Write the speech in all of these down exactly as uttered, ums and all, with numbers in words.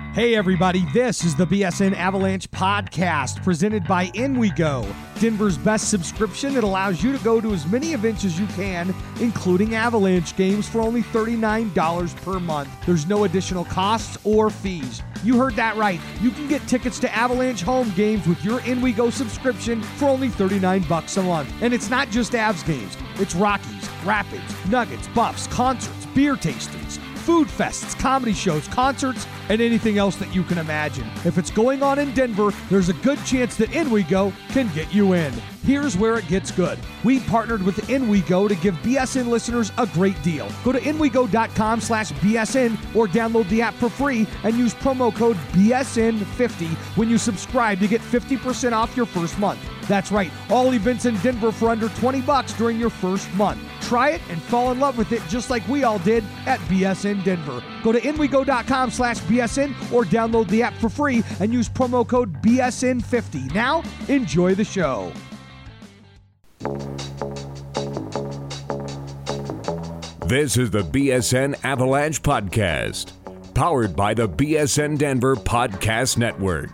Hey everybody, this is the B S N Avalanche podcast presented by InWeGo, Denver's best subscription that allows you to go to as many events as you can, including Avalanche games for only thirty-nine dollars per month. There's no additional costs or fees. You heard that right. You can get tickets to Avalanche home games with your InWeGo subscription for only thirty-nine bucks a month. And it's not just Avs games. It's Rockies, Rapids, Nuggets, Buffs, concerts, beer tastings, food fests, comedy shows, concerts, and anything else that you can imagine. If it's going on in Denver, there's a good chance that InWeGo can get you in. Here's where it gets good. We partnered with InWeGo to give B S N listeners a great deal. Go to InWeGo.com slash BSN or download the app for free and use promo code B S N fifty when you subscribe to get fifty percent off your first month. That's right, all events in Denver for under twenty bucks during your first month. Try it and fall in love with it just like we all did at B S N Denver. Go to InWeGo.com slash BSN or download the app for free and use promo code B S N fifty. Now, enjoy the show. This is the B S N Avalanche Podcast, powered by the B S N Denver Podcast Network.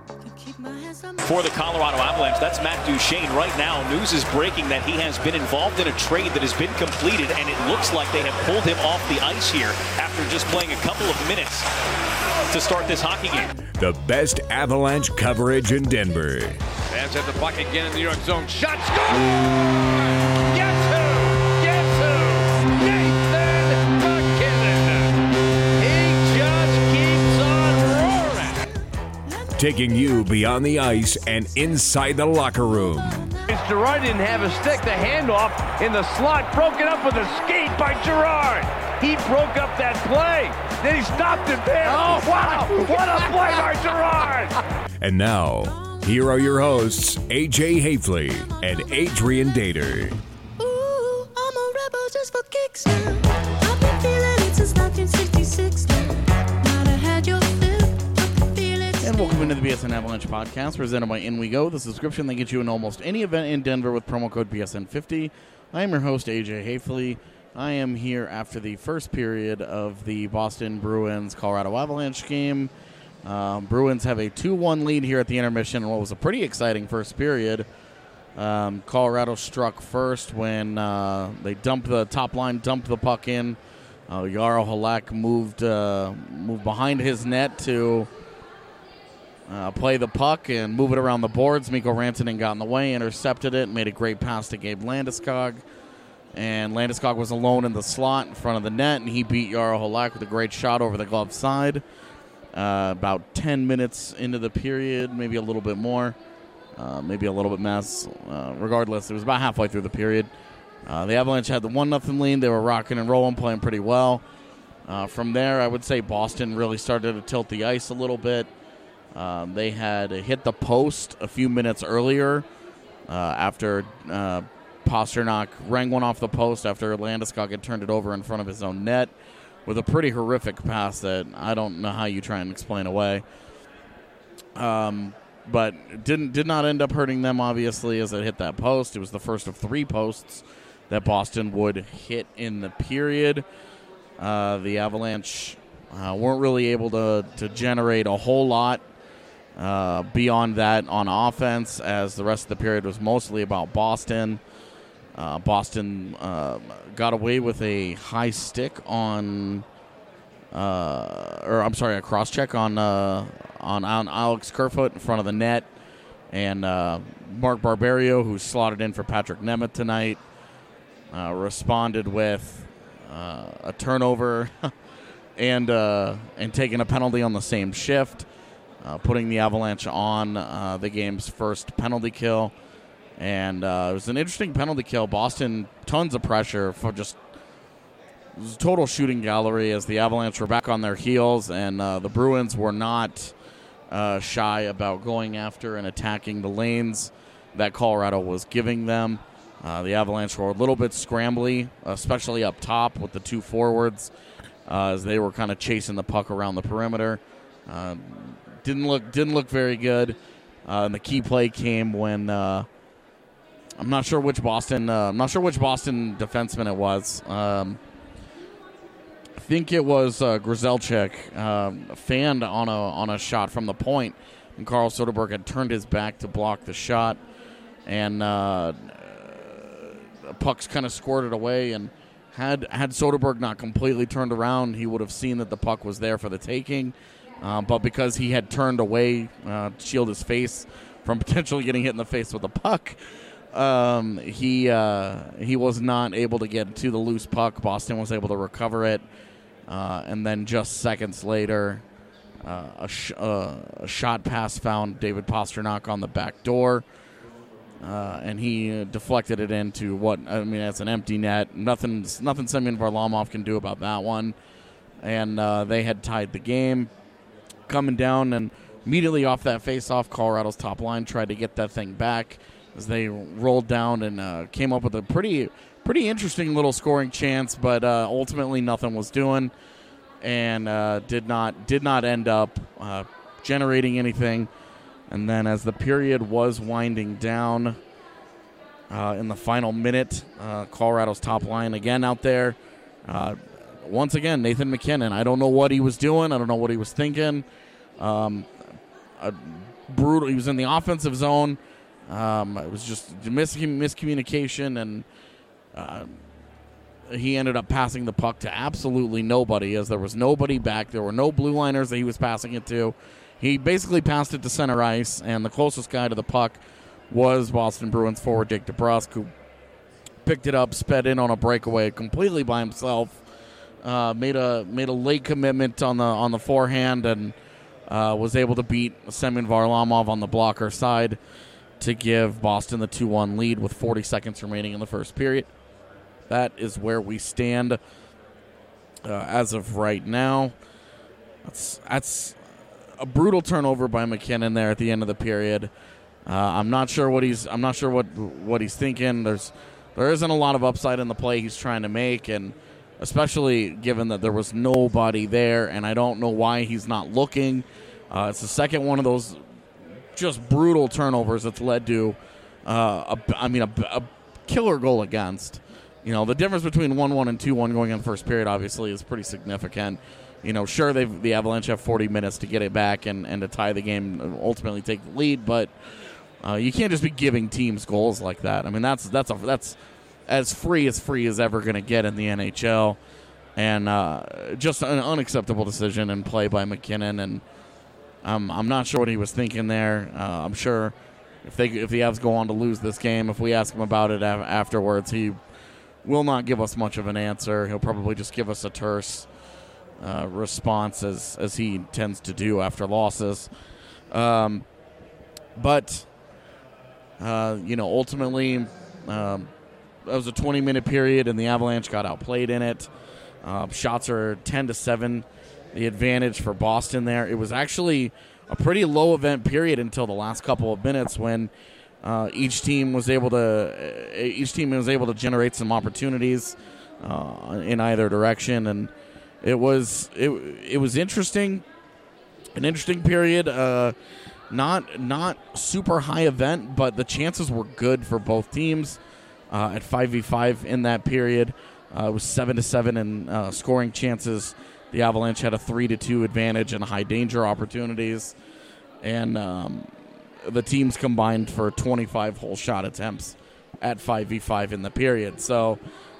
For the Colorado Avalanche, that's Matt Duchene. Right now, news is breaking that he has been involved in a trade that has been completed, and it looks like they have pulled him off the ice here after just playing a couple of minutes to start this hockey game. The best Avalanche coverage in Denver. Fans have the puck again in the New York zone. Shot, score! Guess who? Guess who? Nathan MacKinnon. He just keeps on roaring. Taking you beyond the ice and inside the locker room. Girard didn't have a stick. The handoff in the slot, broken up with a skate by Girard. He broke up that play. Then he stopped it there. Oh, wow. What a play by Girard. And now, here are your hosts, A J Hafley and Adrian Dater. Ooh, I'm a rebel just for kicks now. I've been feeling it since nineteen sixty-six now. Might have had your fill of the feelings. And welcome into the B S N Avalanche podcast presented by InWeGo, the subscription that gets you in almost any event in Denver with promo code B S N fifty. I am your host, A J Hafley. I am here after the first period of the Boston Bruins Colorado Avalanche game. Um, Bruins have a two one lead here at the intermission in what was a pretty exciting first period. Um, Colorado struck first when uh, they dumped the top line, dumped the puck in. Uh, Jaro Halak moved uh, moved behind his net to uh, play the puck and move it around the boards. Mikko Rantanen got in the way, intercepted it, made a great pass to Gabe Landeskog. And Landeskog was alone in the slot in front of the net, and he beat Jaro Halak with a great shot over the glove side. Uh, about ten minutes into the period, maybe a little bit more, uh, maybe a little bit less. Uh, regardless, it was about halfway through the period. Uh, the Avalanche had the one nothing lead. They were rocking and rolling, playing pretty well. Uh, from there, I would say Boston really started to tilt the ice a little bit. Um, they had hit the post a few minutes earlier uh, after uh, Pasternak rang one off the post after Landeskog had turned it over in front of his own net with a pretty horrific pass that I don't know how you try and explain away. Um, but didn't did not end up hurting them, obviously, as it hit that post. It was the first of three posts that Boston would hit in the period. Uh, the Avalanche uh, weren't really able to, to generate a whole lot uh, beyond that on offense, as the rest of the period was mostly about Boston. Uh, Boston uh, got away with a high stick on, uh, or I'm sorry, a cross check on, uh, on on Alex Kerfoot in front of the net, and uh, Mark Barberio, who slotted in for Patrick Nemeth tonight, uh, responded with uh, a turnover and uh, and taking a penalty on the same shift, uh, putting the Avalanche on uh, the game's first penalty kill. And uh, it was an interesting penalty kill. Boston, tons of pressure for just it was a total shooting gallery as the Avalanche were back on their heels, and uh, the Bruins were not uh, shy about going after and attacking the lanes that Colorado was giving them. Uh, the Avalanche were a little bit scrambly, especially up top with the two forwards, uh, as they were kind of chasing the puck around the perimeter. Uh, didn't look didn't look very good. Uh, and the key play came when. Uh, I'm not sure which Boston. Uh, I'm not sure which Boston defenseman it was. Um, I think it was uh, Grzelcyk uh, fanned on a on a shot from the point, and Carl Soderberg had turned his back to block the shot, and uh, the puck's kind of squirted away. And had had Soderberg not completely turned around, he would have seen that the puck was there for the taking. Uh, but because he had turned away uh, to shield his face from potentially getting hit in the face with a puck, um, he uh, he was not able to get to the loose puck. Boston was able to recover it, uh, and then just seconds later, uh, a, sh- uh, a shot pass found David Pastrnak on the back door, uh, and he uh, deflected it into what I mean, it's an empty net. Nothing, nothing Semyon Varlamov can do about that one, and uh, they had tied the game. Coming down, and immediately off that face-off, Colorado's top line tried to get that thing back as they rolled down and uh, came up with a pretty pretty interesting little scoring chance, but uh, ultimately nothing was doing, and uh, did not did not end up uh, generating anything. And then as the period was winding down uh, in the final minute, uh, Colorado's top line again out there. Uh, once again, Nathan MacKinnon. I don't know what he was doing. I don't know what he was thinking. Um, a brutal. He was in the offensive zone. Um, it was just mis- miscommunication, and uh, he ended up passing the puck to absolutely nobody, as there was nobody back. There were no blue liners that he was passing it to. He basically passed it to center ice, and the closest guy to the puck was Boston Bruins forward Jake DeBrusk, who picked it up, sped in on a breakaway completely by himself. Uh, made a made a late commitment on the on the forehand, and uh, was able to beat Semyon Varlamov on the blocker side to give Boston the two one lead with forty seconds remaining in the first period. That is where we stand uh, as of right now. That's that's a brutal turnover by MacKinnon there at the end of the period. Uh, I'm not sure what he's I'm not sure what what he's thinking. There's there isn't a lot of upside in the play he's trying to make, and especially given that there was nobody there, and I don't know why he's not looking. Uh, it's the second one of those just brutal turnovers that's led to, uh, a, I mean, a, a killer goal against. You know, the difference between one one and two one going in the first period obviously is pretty significant. You know, sure, they've, the Avalanche have forty minutes to get it back and, and to tie the game, and ultimately take the lead, but uh, you can't just be giving teams goals like that. I mean, that's that's a, that's as free as free as ever going to get in the N H L, and uh, just an unacceptable decision and play by MacKinnon. And um, I'm not sure what he was thinking there. Uh, I'm sure if they if the Avs go on to lose this game, if we ask him about it af- afterwards, he will not give us much of an answer. He'll probably just give us a terse uh, response, as as he tends to do after losses. Um, but uh, you know, ultimately. Um, That was a twenty-minute period, and the Avalanche got outplayed in it. Uh, shots are ten to seven, the advantage for Boston there. It was actually a pretty low event period until the last couple of minutes, when uh, each team was able to uh, each team was able to generate some opportunities uh, in either direction, and it was it it was interesting, an interesting period. Uh, not not super high event, but the chances were good for both teams. Uh, at five v five in that period. Uh, it was seven to seven in uh, scoring chances. The Avalanche had a three to two advantage in high danger opportunities. And um, the teams combined for twenty-five whole shot attempts at five v five in the period. So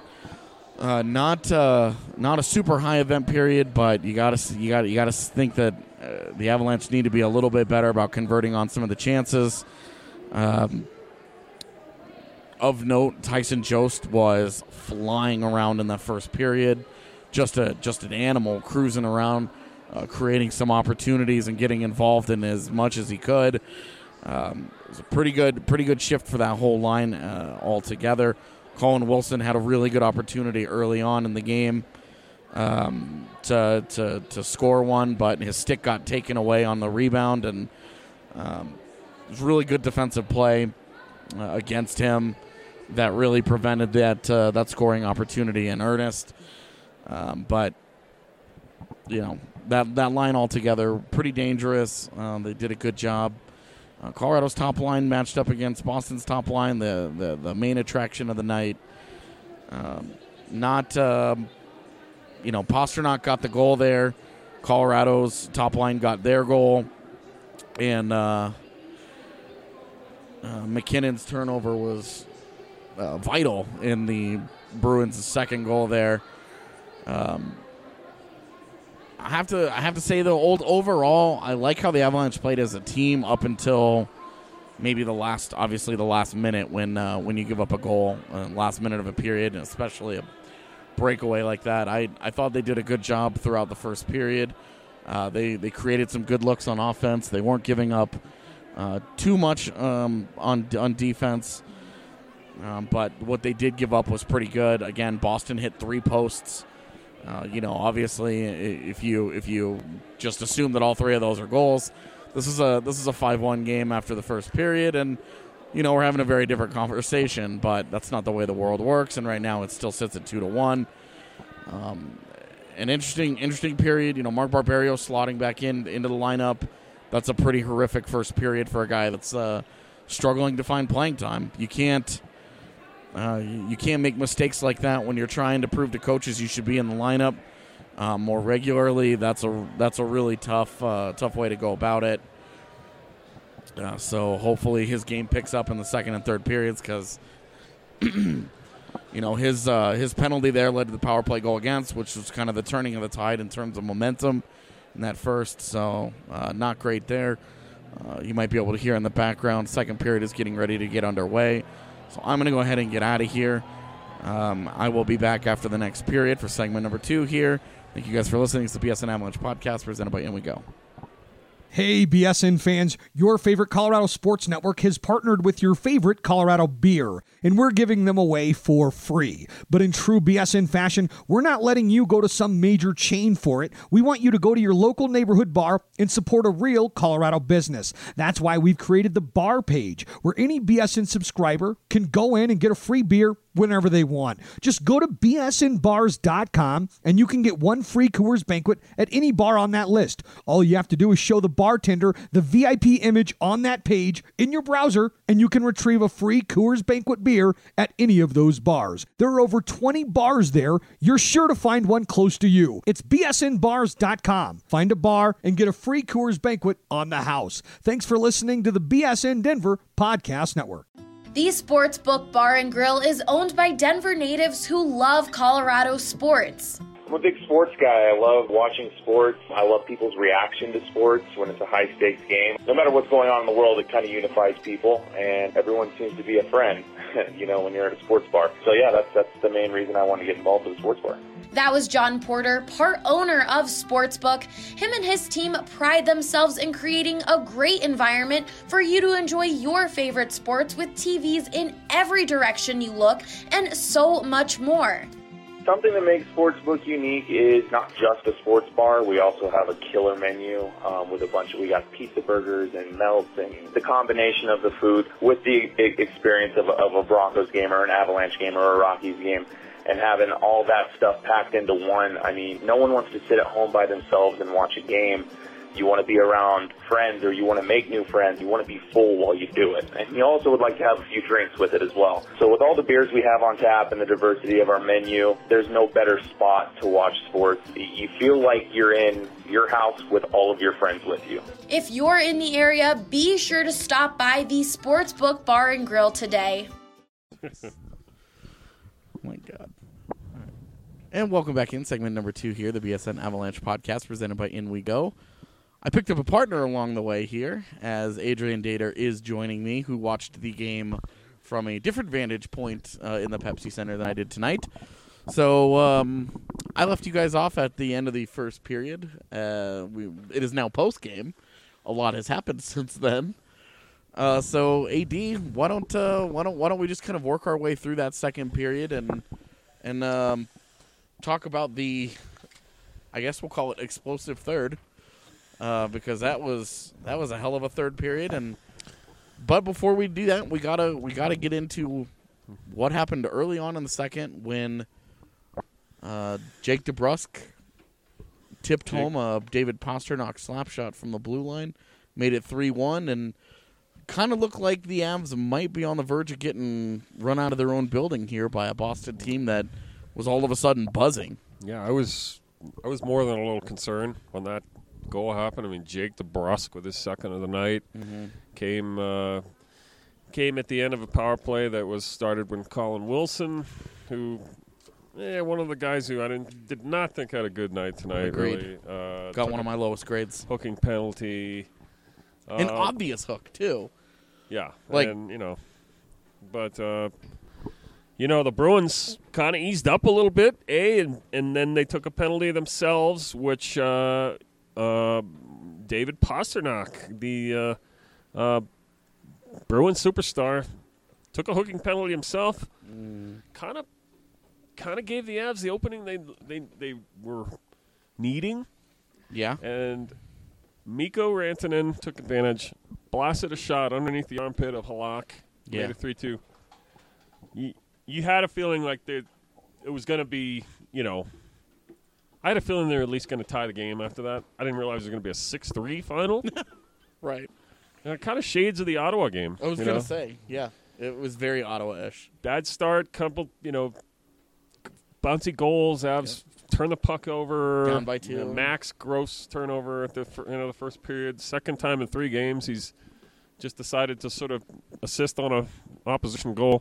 uh, not uh, not a super high event period, but you got to you got you got to think that uh, the Avalanche need to be a little bit better about converting on some of the chances. Um, Of note, Tyson Jost was flying around in that first period, just a just an animal cruising around, uh, creating some opportunities and getting involved in as much as he could. Um, it was a pretty good pretty good shift for that whole line uh, altogether. Colin Wilson had a really good opportunity early on in the game um, to, to to score one, but his stick got taken away on the rebound, and um, it was really good defensive play uh, against him that really prevented that uh, that scoring opportunity in earnest. Um, but, you know, that that line altogether, pretty dangerous. Um, they did a good job. Uh, Colorado's top line matched up against Boston's top line, the, the, the main attraction of the night. Um, not um, you know, Pasternak got the goal there. Colorado's top line got their goal. And uh, uh, McKinnon's turnover was uh, vital in the Bruins' second goal there. Um, I have to I have to say, though, old overall, I like how the Avalanche played as a team up until maybe the last, obviously the last minute when uh, when you give up a goal, uh, last minute of a period, and especially a breakaway like that. I, I thought they did a good job throughout the first period. Uh, they they created some good looks on offense. They weren't giving up uh, too much um, on on defense, um, but what they did give up was pretty good. Again, Boston hit three posts. Uh, you know, obviously, if you if you just assume that all three of those are goals, this is a this is a five one game after the first period, and you know we're having a very different conversation. But that's not the way the world works, and right now it still sits at two to one. Um, an interesting interesting period. You know, Mark Barberio slotting back in into the lineup. That's a pretty horrific first period for a guy that's uh, struggling to find playing time. You can't. Uh, you can't make mistakes like that when you're trying to prove to coaches you should be in the lineup uh, more regularly. That's a that's a really tough uh, tough way to go about it. Uh, so hopefully his game picks up in the second and third periods because you know his uh, his penalty there led to the power play goal against, which was kind of the turning of the tide in terms of momentum in that first. So uh, not great there. Uh, you might be able to hear in the background. Second period is getting ready to get underway. So I'm going to go ahead and get out of here. Um, I will be back after the next period for segment number two here. Thank you guys for listening. It's the B S N Avalanche podcast presented by In We Go. Hey, B S N fans, your favorite Colorado Sports Network has partnered with your favorite Colorado beer, and we're giving them away for free. But in true B S N fashion, we're not letting you go to some major chain for it. We want you to go to your local neighborhood bar and support a real Colorado business. That's why we've created the bar page, where any B S N subscriber can go in and get a free beer whenever they want. Just go to B S N bars dot com and you can get one free Coors Banquet at any bar on that list. All you have to do is show the bartender the V I P image on that page in your browser and you can retrieve a free Coors Banquet beer at any of those bars. There are over twenty bars there. You're sure to find one close to you. It's B S N bars dot com. Find a bar and get a free Coors Banquet on the house. Thanks for listening to the B S N Denver Podcast Network. The Sportsbook Bar and Grill is owned by Denver natives who love Colorado sports. I'm a big sports guy. I love watching sports. I love people's reaction to sports when it's a high-stakes game. No matter what's going on in the world, it kind of unifies people, and everyone seems to be a friend, you know, when you're at a sports bar. So, yeah, that's that's the main reason I want to get involved with the sports bar. That was John Porter, part owner of Sportsbook. Him and his team pride themselves in creating a great environment for you to enjoy your favorite sports with T Vs in every direction you look and so much more. Something that makes Sportsbook unique is not just a sports bar. We also have a killer menu um, with a bunch of, we got pizza burgers and melts, and the combination of the food with the experience of a, of a Broncos game or an Avalanche game or a Rockies game, and having all that stuff packed into one. I mean, no one wants to sit at home by themselves and watch a game. You want to be around friends, or you want to make new friends. You want to be full while you do it. And you also would like to have a few drinks with it as well. So with all the beers we have on tap and the diversity of our menu, there's no better spot to watch sports. You feel like you're in your house with all of your friends with you. If you're in the area, be sure to stop by the Sportsbook Bar and Grill today. Oh my God. And welcome back in segment number two here, the B S N Avalanche podcast presented by In We Go. I picked up a partner along the way here, as Adrian Dater is joining me, who watched the game from a different vantage point uh, in the Pepsi Center than I did tonight. So um, I left you guys off at the end of the first period. Uh, we, it is now post-game. A lot has happened since then. Uh, so A D, why don't uh, why don't why don't we just kind of work our way through that second period and and um, talk about the, I guess we'll call it explosive third, uh, because that was that was a hell of a third period. And but before we do that, we gotta we gotta get into what happened early on in the second when uh, Jake DeBrusk tipped Jake. home a David Pasternak slap shot from the blue line, made it three one, and kind of looked like the Avs might be on the verge of getting run out of their own building here by a Boston team that was all of a sudden buzzing. Yeah, I was I was more than a little concerned when that goal happened. I mean, Jake DeBrusque with his second of the night Mm-hmm. came uh, came at the end of a power play that was started when Colin Wilson, who, eh, one of the guys who I didn't did not think had a good night tonight. Agreed. Really, uh, Got took one of a my lowest grades. hooking penalty. An Uh, obvious hook, too. Yeah, Like- and you know, but uh, you know the Bruins kind of eased up a little bit, a, and and then they took a penalty themselves, which uh, uh, David Pastrnak, the uh, uh, Bruins superstar, took a hooking penalty himself. Kind of, kind of gave the Avs the opening they they they were needing, Yeah. and Mikko Rantanen took advantage, blasted a shot underneath the armpit of Halak, Yeah. made it three two. You, you had a feeling like they, it was going to be, you know, I had a feeling they were at least going to tie the game after that. I didn't realize it was going to be a six three final. Right. uh, kind of shades of the Ottawa game. I was you going know? to say, yeah. It was very Ottawa-ish. Bad start, couple, you know, bouncy goals. Avs turn the puck over. Down by two. You know, Max gross turnover at the fir- end of the first period. Second time in three games, he's just decided to sort of assist on a opposition goal.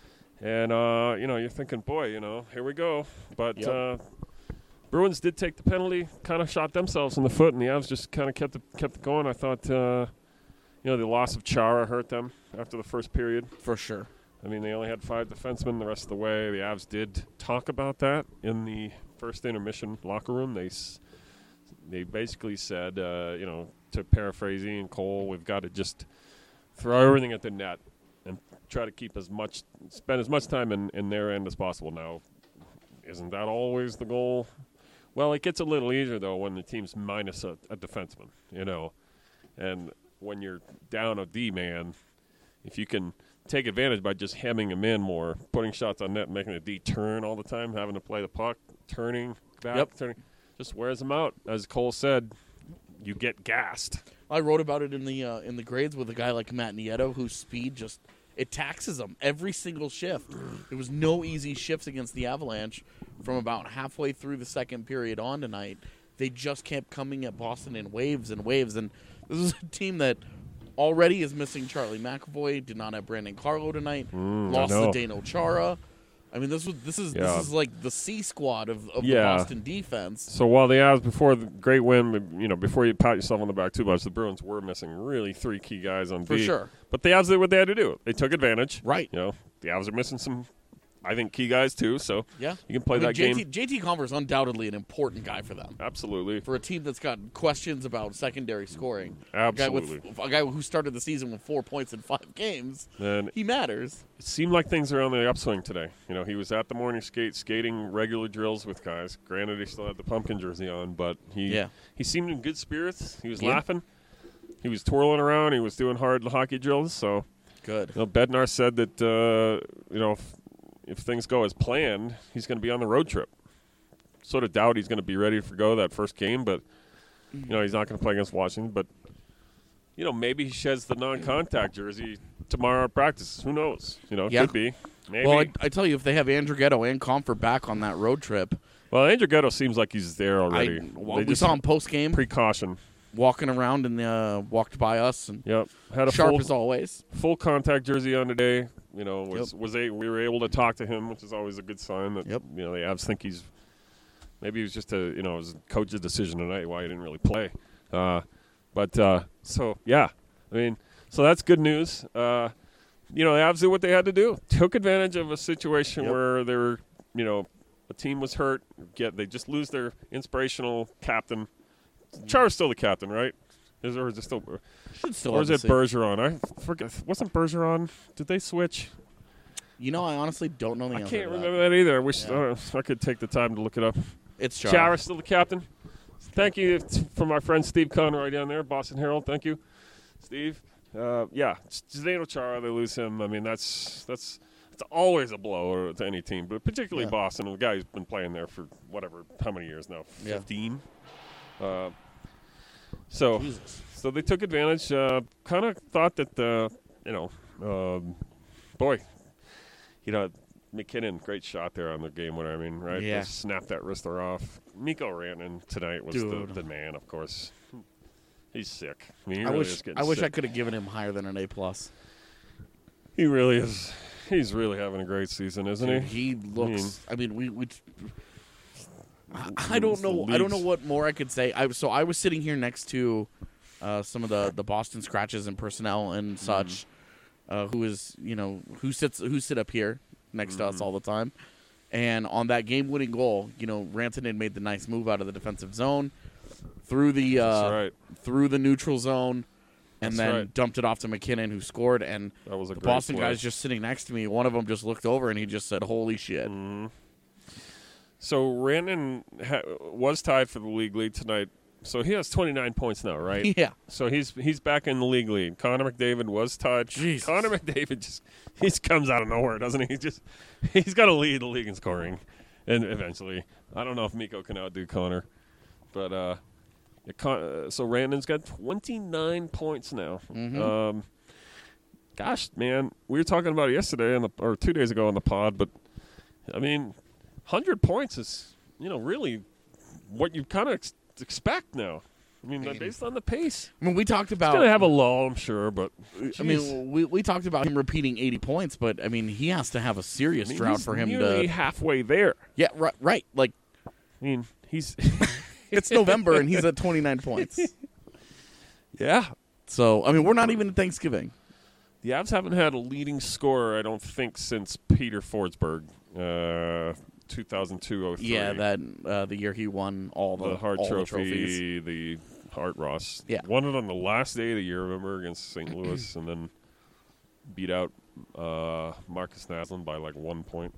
And uh, you know, you're thinking, boy, you know, here we go. But Yep. uh, Bruins did take the penalty, kind of shot themselves in the foot, and the Avs just kind of kept it kept it going. I thought, uh, you know, the loss of Chara hurt them after the first period. For sure. I mean, they only had five defensemen the rest of the way. The Avs did talk about that in the first intermission locker room. They s- they basically said, uh, you know, to paraphrase Ian Cole, we've got to just throw everything at the net and try to keep as much, spend as much time in, in their end as possible. Now, isn't that always the goal? Well, it gets a little easier, though, when the team's minus a, a defenseman, you know. And when you're down a D-man, if you can take advantage by just hemming him in more, putting shots on net, making the D turn all the time, having to play the puck, turning back, Yep. turning, just wears them out. As Cole said, you get gassed. I wrote about it in the uh, in the grades with a guy like Matt Nieto, whose speed just it taxes him every single shift. There was no easy shifts against the Avalanche from about halfway through the second period on tonight. They just kept coming at Boston in waves and waves, and this is a team that already is missing Charlie McAvoy. Did not have Brandon Carlo tonight. Mm, I lost know. to Dano Chara. I mean, this was this is Yeah. this is like the C squad of, of Yeah. the Boston defense. So while the Avs, before the great win, you know, before you pat yourself on the back too much, the Bruins were missing really three key guys on For D. sure. But the Avs did what they had to do. They took advantage. Right. You know, the Avs are missing some, I think, key guys too. So Yeah, you can play I mean, that J T, game. J T Converse undoubtedly an important guy for them. Absolutely. For a team that's got questions about secondary scoring. Absolutely. A guy, with, a guy who started the season with four points in five games. And He matters. it seemed like things are on the upswing today. You know, he was at the morning skate, skating regular drills with guys. Granted, he still had the pumpkin jersey on, but he Yeah. he seemed in good spirits. He was Yeah. laughing. He was twirling around. He was doing hard hockey drills. So, Good. you know, Bednar said that, uh, you know, if, if things go as planned, he's going to be on the road trip. Sort of doubt he's going to be ready to go that first game, but, you know, he's not going to play against Washington. But, you know, maybe he sheds the non-contact jersey tomorrow at practice. Who knows? You know, Yeah. could be. Maybe. Well, I, I tell you, if they have Andrew Ghetto and Comfort back on that road trip, Well, Andrew Ghetto seems like he's there I, already. well, They we just- saw him post game Precaution. walking around and uh, walked by us and Yep. Had a sharp full, as always. full contact jersey on today. You know, was was a, we were able to talk to him, which is always a good sign that Yep. you know the Avs think he's maybe it was just a you know it was coach's decision tonight why he didn't really play. Uh, but uh, so yeah, I mean, so that's good news. Uh, you know, the Avs did what they had to do. Took advantage of a situation Yep. where they were, you know, a team was hurt. Get they just lose their inspirational captain. Chara's still the captain, right? Is or is it still? Should still Or have is the it same- Bergeron? I forget. Wasn't Bergeron? Did they switch? You know, I honestly don't know the I answer can't to that. remember that either. I wish Yeah. uh, I could take the time to look it up. It's Chara. Chara's still the captain. Thank you t- from our friend Steve Conroy down there, Boston Herald. Thank you, Steve. Uh, yeah, Zdeno Chara. They lose him. I mean, that's that's it's always a blow to any team, but particularly Yeah. Boston. The guy who's been playing there for whatever, how many years now? Yeah. Fifteen. Uh, so. Jesus. So they took advantage. Uh, kind of thought that, uh, you know, um, boy, you know, McKinnon, great shot there on the game winner. I mean, right? Yeah. Just snap that wrister off. Mikko Rantanen tonight was the, Dude. the man, of course. He's sick. I mean, he I really wish is getting I wish sick. I could have given him higher than an A plus. He really is. He's really having a great season, isn't Dude, he? he looks. I mean, we. we I, I It's don't the know. I don't know leagues. what more I could say. I so I was sitting here next to uh, some of the, the Boston Scratches and personnel and such, uh, who is you know who sits who sit up here next to us all the time, and on that game winning goal, you know Rantanen made the nice move out of the defensive zone, through the uh, That's right. through the neutral zone. And That's then right. dumped it off to McKinnon, who scored. And That was a the great Boston play. guys just sitting next to me. One of them just looked over and he just said, "Holy shit!" Mm. So Rantanen ha- was tied for the league lead tonight. So he has twenty-nine points now, right? Yeah. So he's he's back in the league lead. Connor McDavid was tied. Jesus. Connor McDavid just he just comes out of nowhere, doesn't he? He just he's got to lead the league in scoring, and eventually, I don't know if Mikko can outdo Connor, but uh, it con- uh, so Rantanen's got twenty-nine points now. Mhm. Um, gosh, man, we were talking about it yesterday on the, or two days ago on the pod, but I mean, one hundred points is you know really what you kind of ex- expect now. I mean, based on the pace. I mean, we talked He's about. going to have a lull, I'm sure, but I geez. mean, we we talked about him repeating eighty points, but I mean, he has to have a serious I mean, drought he's for him nearly to. halfway there. Yeah, right. Right. Like I mean, he's it's November and he's at twenty-nine points. yeah. So I mean, we're not even at Thanksgiving. The Avs haven't had a leading scorer, I don't think, since Peter Forsberg, uh, two thousand two oh three. Yeah, that uh, the year he won all the, the Hart all Trophy, the trophies. the Hart Ross. Yeah. Won it on the last day of the year, remember, against Saint Louis, and then beat out uh, Marcus Naslund by like one point.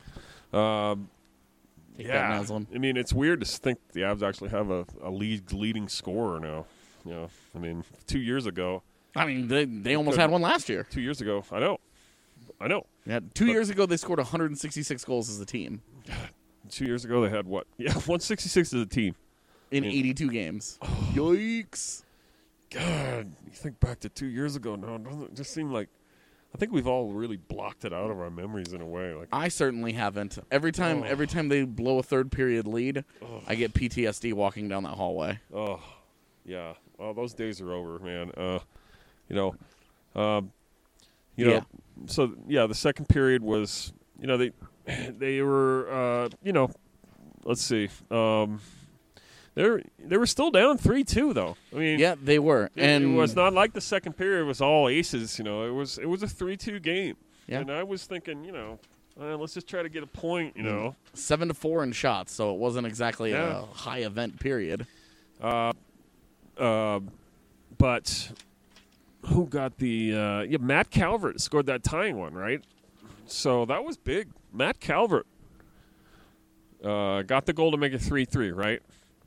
Um, Take yeah. that, Naslund. I mean, it's weird to think the Avs actually have a, a league leading scorer now. You know, I mean, two years ago. I mean, they they almost Good. had one last year. Two years ago, I know. I know. Yeah, two But- years ago they scored one hundred sixty-six goals as a team Two years ago, they had what? Yeah, one sixty-six as a team. in Yeah. eighty-two games. Yikes! God, you think back to two years ago now, doesn't it just seem like I think we've all really blocked it out of our memories in a way. Like, I certainly haven't. Every time, Oh. every time they blow a third period lead, I get P T S D walking down that hallway. oh, yeah. Well, those days are over, man. Uh, you know, um, you Yeah. know. So yeah, the second period was, you know, they they were, uh, you know, let's see, um, they were they were still down three two though. I mean, Yeah, they were, It, and it was not like the second period was all aces. You know, it was it was a three two game. Yeah. And I was thinking, you know, uh, let's just try to get a point. You know, seven to four in shots, so it wasn't exactly Yeah. a high event period. uh, uh, but who got the? Uh, yeah, Matt Calvert scored that tying one, right? So that was big. Matt Calvert uh, got the goal to make it three three, right?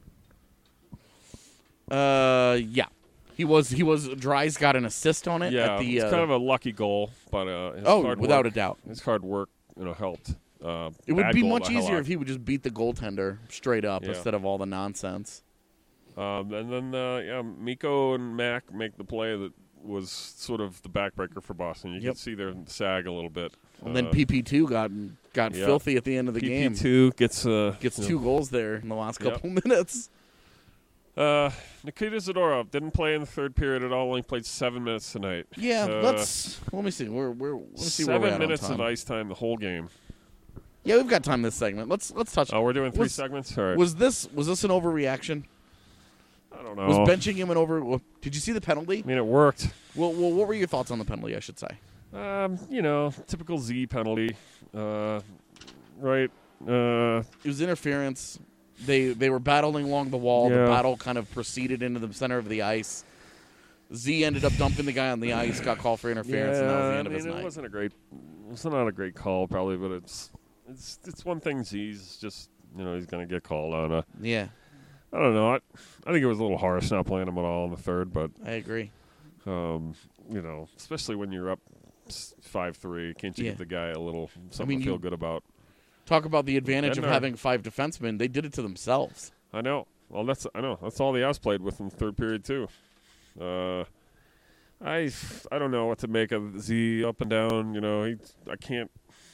Uh, yeah, he was he was. Dries got an assist on it. Yeah, at the, it's uh, kind of a lucky goal, but uh, his oh, hard without work, a doubt. his hard work, you know, helped. Uh, It would bad be goal much to easier Halak. if he would just beat the goaltender straight up Yeah. instead of all the nonsense. Um, and then, uh, yeah, Mikko and Mac make the play that was sort of the backbreaker for Boston. You Yep. can see their sag a little bit. And then Uh, P P two got got yeah. filthy at the end of the game. P P two gets uh, Gets you know, two goals there in the last Yep. couple minutes. Uh, Nikita Zadorov didn't play in the third period at all. Only played seven minutes tonight. Yeah, Uh, let's let me see. We're we're let me see where we're seven at minutes on of time. ice time the whole game. Yeah, we've got time this segment. Let's let's touch. Oh, we're doing three was, segments. All right. Was this was this an overreaction? I don't know. Was benching him an over? well, Did you see the penalty? I mean, it worked. Well, well, what were your thoughts on the penalty? I should say. Um, you know, typical Z penalty. Uh, right. Uh, It was interference. They they were battling along the wall. Yeah. The battle kind of proceeded into the center of the ice. Z ended up dumping the guy on the ice. Got called for interference, yeah, and that was the I end mean, of his it night. wasn't a great. It's not a great call, probably, but it's it's it's one thing. Z's just you know he's going to get called on. Uh, Yeah, I don't know. I, I think it was a little harsh not playing him at all in the third, but I agree. um, you know, especially when you're up five three, can't you Yeah. give the guy a little something mean, to feel you- good about? Talk about the advantage of Bednar. having five defensemen. They did it to themselves. I know. Well, that's I know. That's all the Avs played with in the third period too. Uh, I I don't know what to make of Z up and down. You know, he I can't.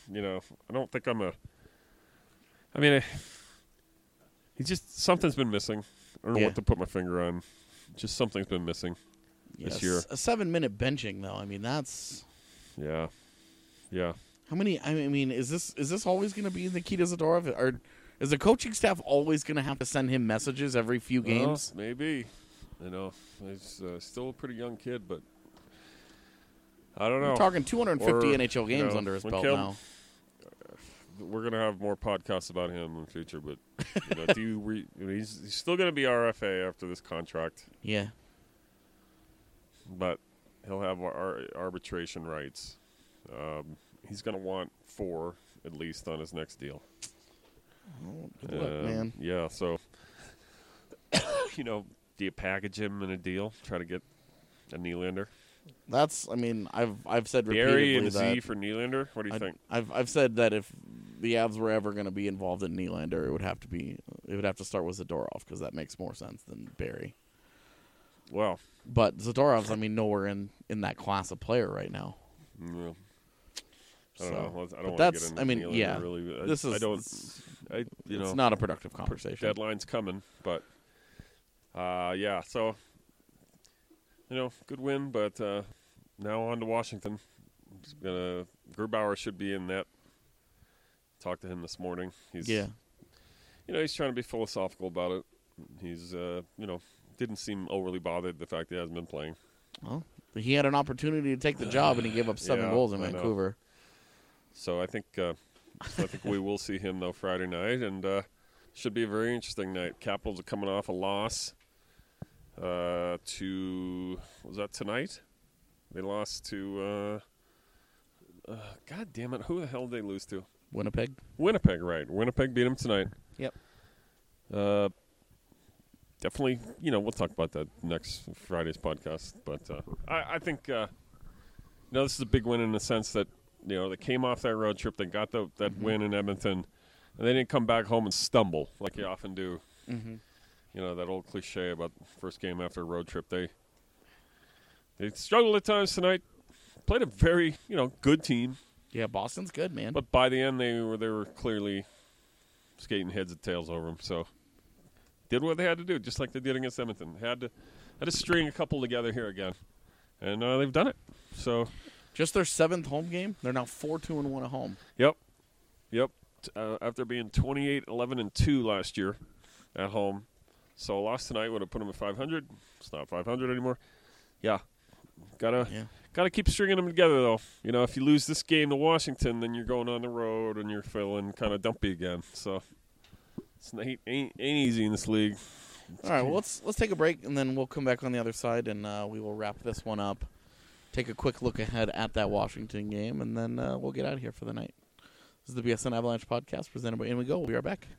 you know, I don't think I'm a. I mean, I, he just something's been missing. I don't know Yeah. what to put my finger on. Just something's been missing Yes. this year. A seven-minute benching, though. I mean, that's Yeah, yeah. how many. I mean, is this is this always going to be Nikita Zadorov, or is the coaching staff always going to have to send him messages every few games? Well, maybe. You know, he's uh, still a pretty young kid, but I don't know. We're talking two hundred fifty Or, N H L games you know, under his when belt Kim- now. We're gonna have more podcasts about him in the future, but you know, do you re- I mean, he's, he's still gonna be R F A after this contract, Yeah. but he'll have ar- arbitration rights. Um, he's gonna want four at least on his next deal. Oh, good luck, Um, man. Yeah, so you know, do you package him in a deal? Try to get a Nylander, That's. I mean, I've I've said Barry repeatedly and that Z for Nylander. What do you I, think? I've I've said that if the Avs were ever going to be involved in Nylander, it would have to be it would have to start with Zadorov because that makes more sense than Barry. Well, But Zadorov's, I mean, nowhere in, in that class of player right now. yeah. I don't So, know. I don't but want that's- to get into I mean, Nylander, yeah. Really. I, This is I don't. it's, I you know. it's not a productive conversation. Deadline's coming, but uh, yeah. So you know, good win, but uh, now on to Washington. It's gonna Grubauer should be in net. Talked to him this morning. He's Yeah. You know, he's trying to be philosophical about it. He's uh, you know, didn't seem overly bothered the fact that he hasn't been playing. Well, he had an opportunity to take the job, and he gave up seven Yeah, goals in I know. Vancouver. So I think uh, so I think we will see him though Friday night, and uh, should be a very interesting night. Capitals are coming off a loss uh, to was that tonight? They lost to uh, uh, God damn it! Who the hell did they lose to? Winnipeg. Winnipeg, right? Winnipeg beat them tonight. Yep. Uh, definitely, you know, we'll talk about that next Friday's podcast. But uh, I, I think, uh, you know, this is a big win in the sense that, you know, they came off that road trip, they got the, that Mm-hmm. win in Edmonton, and they didn't come back home and stumble like you often do. Mm-hmm. You know, that old cliche about first game after a road trip. They they struggled at times tonight. Played a very, you know, good team. Yeah, Boston's good, man. But by the end, they were they were clearly skating heads and tails over them. So did what they had to do, just like they did against Edmonton. Had to had to string a couple together here again, and uh, they've done it. So Just their seventh home game. They're now four two and one at home. yep, yep. Uh, after being twenty-eight, eleven, and two last year at home, so a loss tonight would have put them at five hundred. It's not five hundred anymore. Yeah, gotta. Yeah. Got to keep stringing them together, though. You know, if you lose this game to Washington, then you're going on the road and you're feeling kind of dumpy again. So it's not, ain't, ain't easy in this league. All right, well, let's let's take a break, and then we'll come back on the other side, and uh, we will wrap this one up. Take a quick look ahead at that Washington game, and then uh, we'll get out of here for the night. This is the B S N Avalanche podcast presented by In We Go. We'll be right back.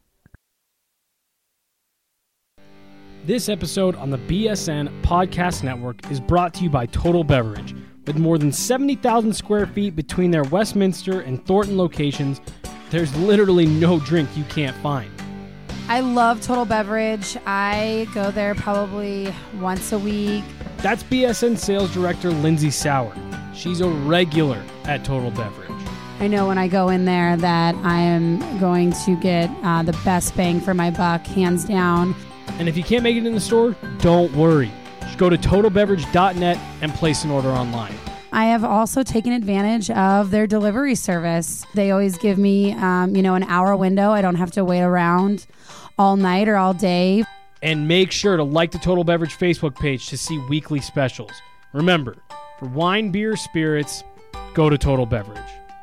This episode on the B S N Podcast Network is brought to you by Total Beverage. With more than seventy thousand square feet between their Westminster and Thornton locations, there's literally no drink you can't find. I love Total Beverage. I go there probably once a week. That's B S N Sales Director Lindsay Sauer. She's a regular at Total Beverage. I know when I go in there that I am going to get uh, the best bang for my buck, hands down. And if you can't make it in the store, don't worry. Just go to total beverage dot net and place an order online. I have also taken advantage of their delivery service. They always give me, um, you know, an hour window. I don't have to wait around all night or all day. And make sure to like the Total Beverage Facebook page to see weekly specials. Remember, for wine, beer, spirits, go to Total Beverage.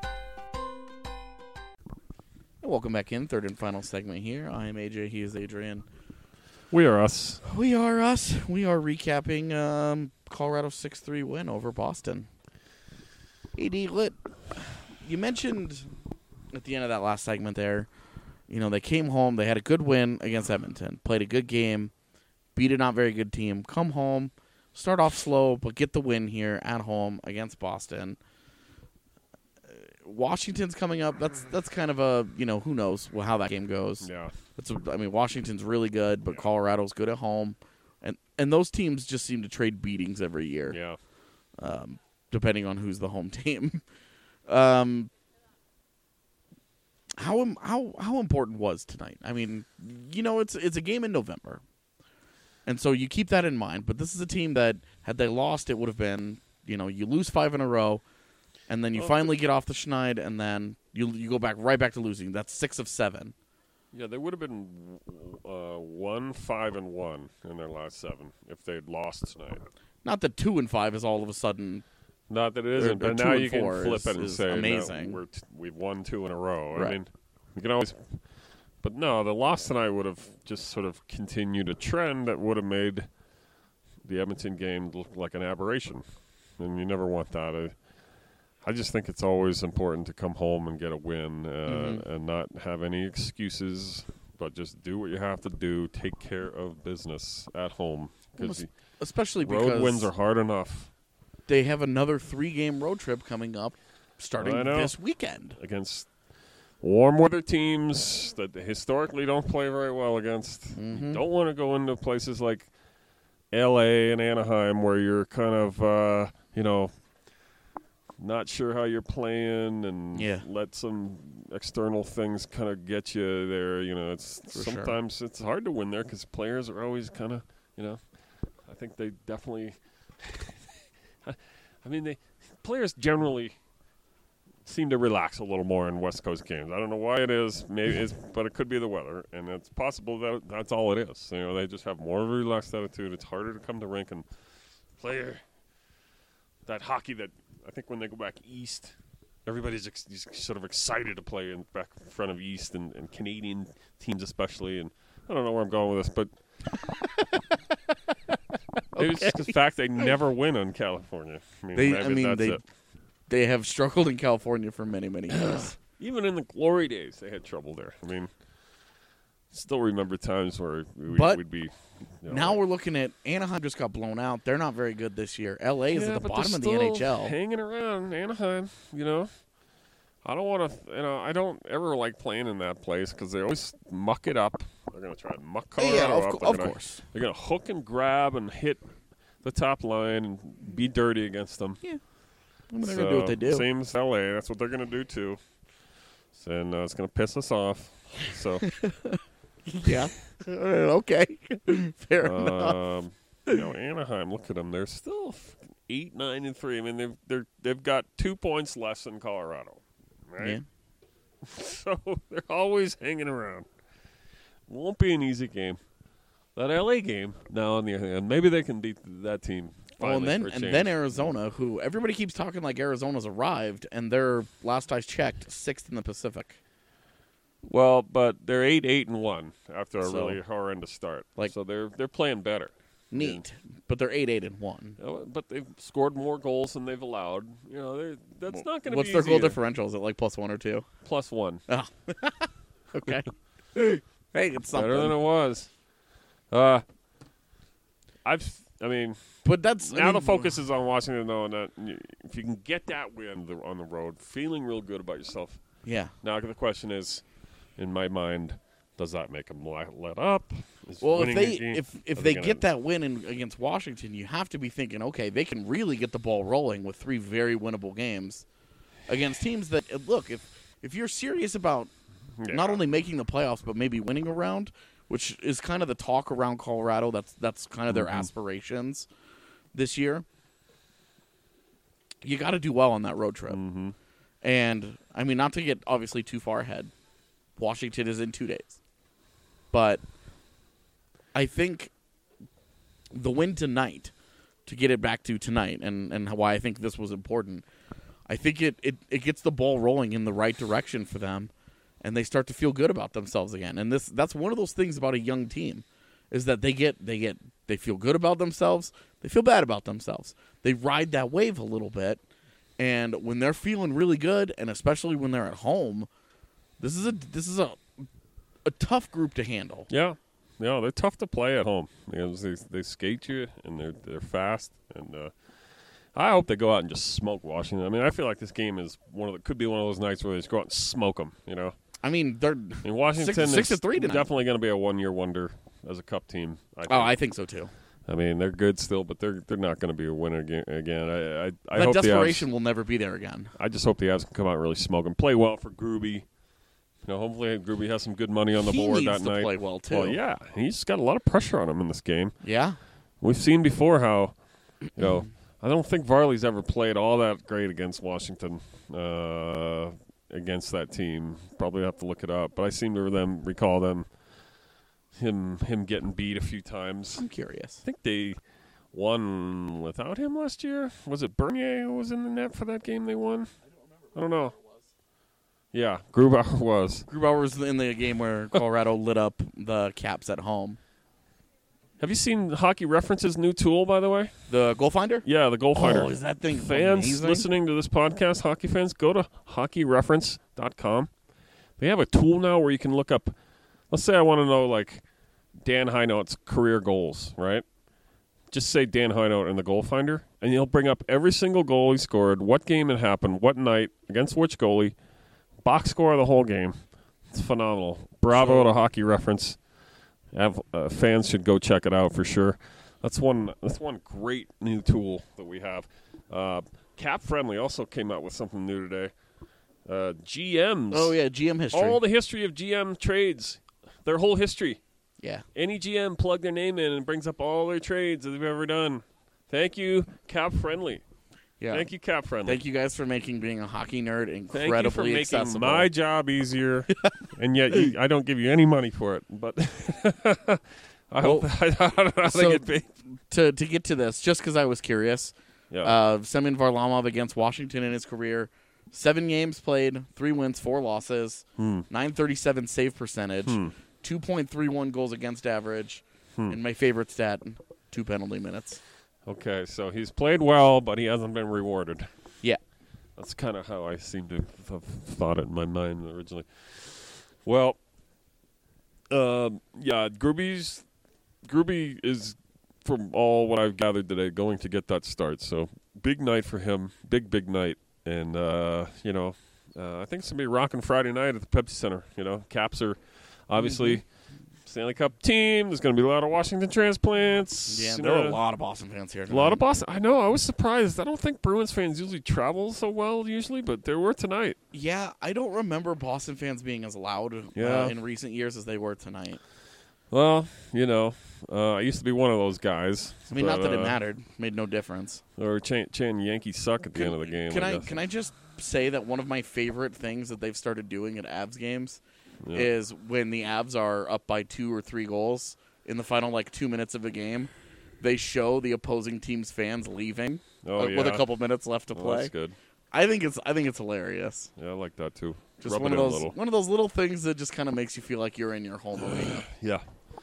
Welcome back in, third and final segment here. I am A J, he is Adrian. We are us. We are us. We are recapping um, Colorado's six three win over Boston. A D, Lit, you mentioned at the end of that last segment there, you know, they came home, they had a good win against Edmonton, played a good game, beat a not very good team, come home, start off slow, but get the win here at home against Boston. Washington's coming up. That's that's kind of a, you know, who knows how that game goes. Yeah. That's a, I mean, Washington's really good, but Colorado's good at home. And and those teams just seem to trade beatings every year. Yeah. Um, depending on who's the home team. um, how im- how how important was tonight? I mean, you know, it's it's a game in November, and so you keep that in mind. But this is a team that had they lost, it would have been, you know, you lose five in a row, and then you Well, finally get off the schneid, and then you you go back right back to losing. That's six of seven. Yeah, they would have been uh, one, five, and one in their last seven if they'd lost tonight. Not that two and five is all of a sudden. Not that it or- isn't, or but two now and you can four flip is- it and is say, amazing. no, we're t- we've won two in a row. Right. I mean, you can always. But no, the loss tonight would have just sort of continued a trend that would have made the Edmonton game look like an aberration, and you never want that. I, I just think it's always important to come home and get a win uh, Mhm. and not have any excuses, but just do what you have to do. Take care of business at home. Well, Because especially road because wins are hard enough. They have another three-game road trip coming up starting I know. this weekend. Against warm weather teams that they historically don't play very well against. Mm-hmm. You don't want to go into places like L A and Anaheim where you're kind of, uh, you know, not sure how you're playing and Yeah. let some external things kind of get you there. You know, it's For sure. sometimes it's hard to win there because players are always kind of, you know, I think they definitely. I mean, they players generally seem to relax a little more in West Coast games. I don't know why it is, maybe, it's, but it could be the weather, and it's possible that that's all it is. You know, they just have more of a relaxed attitude. It's harder to come to rink and play that hockey that I think when they go back east, everybody's ex- sort of excited to play in back in front of East and, and Canadian teams especially. And I don't know where I'm going with this, but. Okay. It's just the fact they never win on California. I mean, They, maybe I mean, that's they it. they have struggled in California for many, many years. Even in the glory days, they had trouble there. I mean, still remember times where we, But we'd be. You know, Now we're looking at Anaheim just got blown out. They're not very good this year. L A is yeah, at the but bottom they're of the N H still L. hanging around Anaheim. You know, I don't want to. You know, I don't ever like playing in that place because they always muck it up. They're going to try and muck Colorado Yeah, of up. co- They're of gonna- course. They're going to hook and grab and hit the top line and be dirty against them. Yeah. I mean, they're gonna do what they do. Same as L A. That's what they're going to do too. And uh, it's going to piss us off. So. Yeah. Okay. Fair enough. Um, you know, Anaheim. Look at them. They're still f- eight, nine, and three. I mean, they've they're they've got two points less than Colorado, right? Yeah. So they're always hanging around. Won't be an easy game. That L A game. Now, on the other hand, maybe they can beat that team. Well, and finally then for a and change. then Arizona, who everybody keeps talking like Arizona's arrived, and they're last I checked sixth in the Pacific. Well, but they're eight, eight, and one after a So- really horrendous start. Like- so they're they're playing better. Neat, but they're eight, eight, and one. You know, but they've scored more goals than they've allowed. You know, they're, that's not going to be What's their easy goal either. differential? Is it like plus one or two? Plus one. Oh. Okay. Hey, it's something. Better than it was. Uh, I've. I mean, But that's I now the mean, focus is on Washington, though, and that if you can get that win the- on the road, feeling real good about yourself. Yeah. Now the question is, in my mind, does that make them let up? Is Well, if winning they the game- if if are they gonna- get that win in, against Washington, you have to be thinking, okay, they can really get the ball rolling with three very winnable games against teams that uh, look. If if you're serious about Yeah. not only making the playoffs but maybe winning a round, which is kind of the talk around Colorado. That's that's kind of their Mhm. aspirations this year. You got to do well on that road trip. Mm-hmm. And I mean, not to get obviously too far ahead. Washington is in two days, but I think the win tonight, to get it back to tonight, and, and why I think this was important, I think it, it, it gets the ball rolling in the right direction for them, and they start to feel good about themselves again. And this that's one of those things about a young team, is that they get they get they feel good about themselves, they feel bad about themselves. They ride that wave a little bit, and when they're feeling really good, and especially when they're at home, this is a this is a a tough group to handle. Yeah, yeah, they're tough to play at home because they they skate you and they're they're fast, and uh, I hope they go out and just smoke Washington. I mean, I feel like this game is one of the, could be one of those nights where they just go out and smoke them. You know, I mean, they're I mean, Washington six, six is to three tonight. definitely going to be a one year wonder as a cup team. I think. Oh, I think so too. I mean, they're good still, but they're they're not going to be a winner again. again. I I, I That hope desperation the Avs, will never be there again. I just hope the Avs can come out and really smoke and play well for Groovy. You know, hopefully Gruby has some good money on the He board needs that to night. play well, too. Well, yeah, he's got a lot of pressure on him in this game. Yeah. We've seen before how, you know, I don't think Varley's ever played all that great against Washington, uh, against that team. Probably have to look it up, but I seem to them recall them him him getting beat a few times. I'm curious. I think they won without him last year. Was it Bernier who was in the net for that game they won? I don't know. Yeah, Grubauer was. Grubauer was in the game where Colorado lit up the Caps at home. Have you seen Hockey Reference's new tool, by the way? The Goal Finder? Yeah, the Goal Finder. Oh, is that thing Fans amazing? listening to this podcast, hockey fans, go to hockey reference dot com. They have a tool now where you can look up, let's say I want to know, like, Dan Heinout's career goals, right? Just say Dan Heinout in the Goal Finder, and he'll bring up every single goal he scored, what game it happened, what night, against which goalie, box score of the whole game. It's phenomenal. Bravo to Hockey Reference. Have, uh, fans should go check it out for sure. That's one. That's one great new tool that we have. Uh, Cap Friendly also came out with something new today. Uh, G Ms. Oh yeah, G M history. All the history of G M trades, their whole history. Yeah. Any G M plug their name in and brings up all their trades that they've ever done. Thank you, Cap Friendly. Yeah. Thank you, Cap Friendly. Thank you guys for making being a hockey nerd incredibly Thank you for making accessible. my job easier, and yet you, I don't give you any money for it. But I Well, hope I, I don't know how so they get paid. To to get to this, just because I was curious, Yeah. uh, Semyon Varlamov against Washington in his career, seven games played, three wins, four losses, Hmm. nine thirty-seven save percentage, Hmm. two point three one goals against average, Hmm. and my favorite stat, two penalty minutes. Okay, so he's played well, but he hasn't been rewarded. Yeah. That's kind of how I seem to have thought it in my mind originally. Well, um, yeah, Gruby's Gruby is, from all what I've gathered today, going to get that start. So big night for him, big big night, and uh, you know, uh, I think it's gonna be rocking Friday night at the Pepsi Center. You know, Caps are obviously. Mm-hmm. Stanley Cup team. There's going to be a lot of Washington transplants. Yeah, you there know. are a lot of Boston fans here A tonight. lot of Boston. I know. I was surprised. I don't think Bruins fans usually travel so well usually, but there were tonight. Yeah, I don't remember Boston fans being as loud Yeah. uh, in recent years as they were tonight. Well, you know, uh, I used to be one of those guys. I mean, but, not that it uh, mattered. Made no difference. Or Chan, Chan Yankees suck at the end of the game. Can I, guess. can I just say that one of my favorite things that they've started doing at Avs games Yeah. is when the Avs are up by two or three goals in the final like two minutes of a game, they show the opposing team's fans leaving Oh, uh, with a yeah. couple minutes left to Oh, play. that's good. I think it's I think it's hilarious. Yeah, I like that too. Just Rub one it of in a those little. one of those little things that just kind of makes you feel like you're in your home arena. Yeah.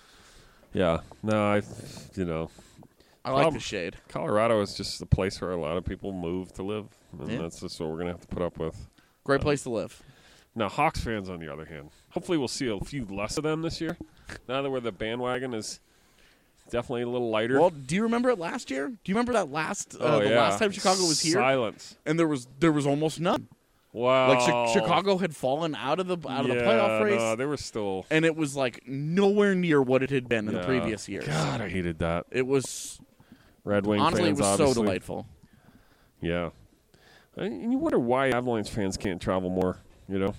Yeah. No, I, you know. I like Prob- the shade. Colorado is just a place where a lot of people move to live, and Yeah. that's just what we're going to have to put up with. Great Um, place to live. Now, Hawks fans, on the other hand, hopefully we'll see a few less of them this year. Now that where the bandwagon is definitely a little lighter. Well, do you remember it last year? Do you remember that last uh, oh, the yeah. last time Chicago was here? Silence. And there was there was almost none. Wow. Like Chi- Chicago had fallen out of the out of the Yeah, playoff race, no, they were still. and it was like nowhere near what it had been in Yeah. the previous years. God, I hated that. It was Red Wing honestly fans, it was obviously. so delightful. Yeah. And you wonder why Avalanche fans can't travel more, you know?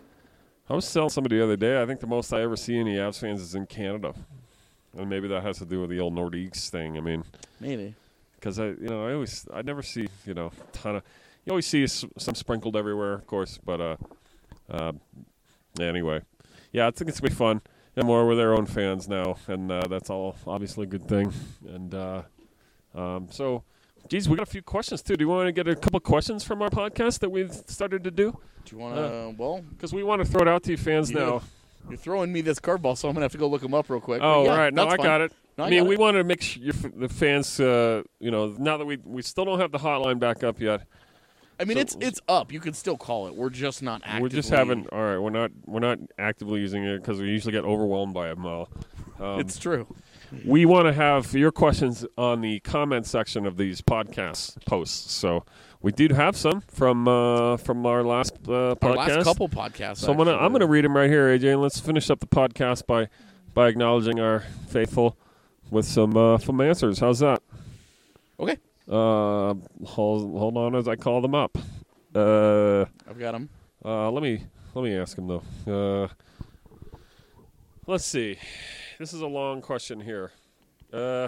I was telling somebody the other day, I think the most I ever see any Avs fans is in Canada. And maybe that has to do with the old Nordiques thing. I mean, Maybe. because I, you know, I always, I never see, you know, a ton of, you always see s- some sprinkled everywhere, of course, but, uh, uh, anyway. Yeah, I think it's going to be fun. And more with their own fans now, and uh, that's all obviously a good thing. And uh, um, so, geez, we got a few questions, too. Do you want to get a couple questions from our podcast that we've started to do? Do you want to? Uh, well, Because we want to throw it out to you fans you now. know, you're throwing me this curveball, so I'm gonna have to go look them up real quick. Oh, But yeah, right. No, that's I fine. got it. No, I, I mean, got we it. wanted to make sure your f- the fans, uh, you know, now that we we still don't have the hotline back up yet. I mean, So- it's it's up. You can still call it. We're just not actively. We're just having all right. We're not we're not actively using it because we usually get overwhelmed by them all. Um, It's true. We want to have your questions on the comment section of these podcast posts. So we did have some from uh, from our last uh, podcast. Our last couple podcasts. So I'm gonna I'm gonna read them right here, A J, and let's finish up the podcast by by acknowledging our faithful with some uh, some answers. How's that? Okay. Uh, hold hold on as I call them up. Uh, I've got them. uh, let me Let me ask him, though. Uh, let's see. This is a long question here. Uh,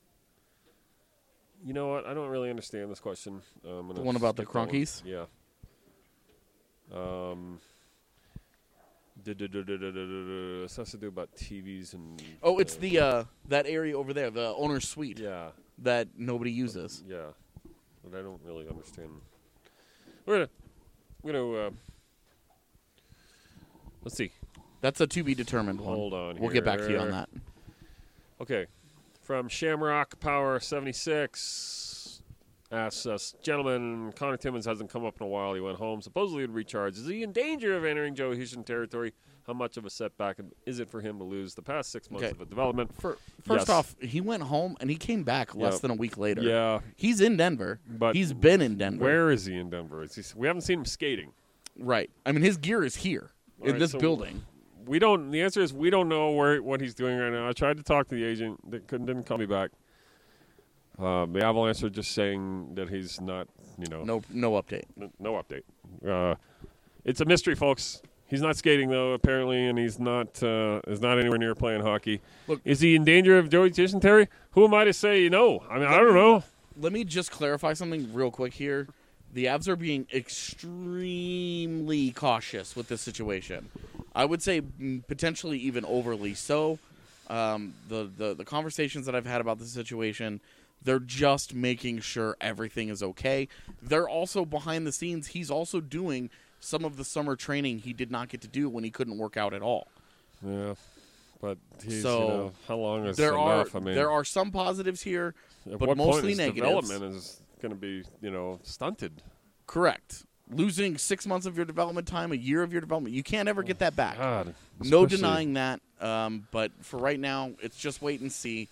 you know what? I don't really understand this question. Um, The one about the Cronkies? Yeah. Um, this has to do about T Vs and... Oh, it's the uh, that area over there, the owner's suite. Yeah. That nobody uses. Yeah. But I don't really understand. We're going to... We're gonna, uh, let's see. That's a to be determined one. Hold on We'll get back to you on here. that. Okay. From Shamrock Power seventy-six asks us, gentlemen, Connor Timmins hasn't come up in a while. He went home, supposedly to recharge. Is he in danger of entering Joey Hishon territory? How much of a setback is it for him to lose the past six months Okay. of a development? For, first Yes. off, he went home and he came back less Yep. than a week later. Yeah. He's in Denver. But he's been in Denver. Where is he in Denver? Is he, we haven't seen him skating. Right. I mean, his gear is here All in right, this so building. We don't. The answer is we don't know where what he's doing right now. I tried to talk to the agent. That couldn't didn't call me back. Uh, the Avalanche are just saying that he's not. You know. No. No update. No, no update. Uh, it's a mystery, folks. He's not skating though, apparently, and he's not. Uh, is not anywhere near playing hockey. Look, is he in danger of Joey Dysentery? Who am I to say no? I mean, I don't know. Let me just clarify something real quick here. The Avs are being extremely cautious with this situation. I would say mm, potentially even overly so. Um, the, the, the conversations that I've had about the situation, they're just making sure everything is okay. They're also behind the scenes. He's also doing some of the summer training he did not get to do when he couldn't work out at all. Yeah, but he's, so you know, how long is there enough? are I mean, there are some positives here, at but what mostly point his negatives. development is going to be, you know, stunted. Correct. Losing six months of your development time, a year of your development, you can't ever get that back. God, no especially- denying that. Um, but for right now, it's just wait and see.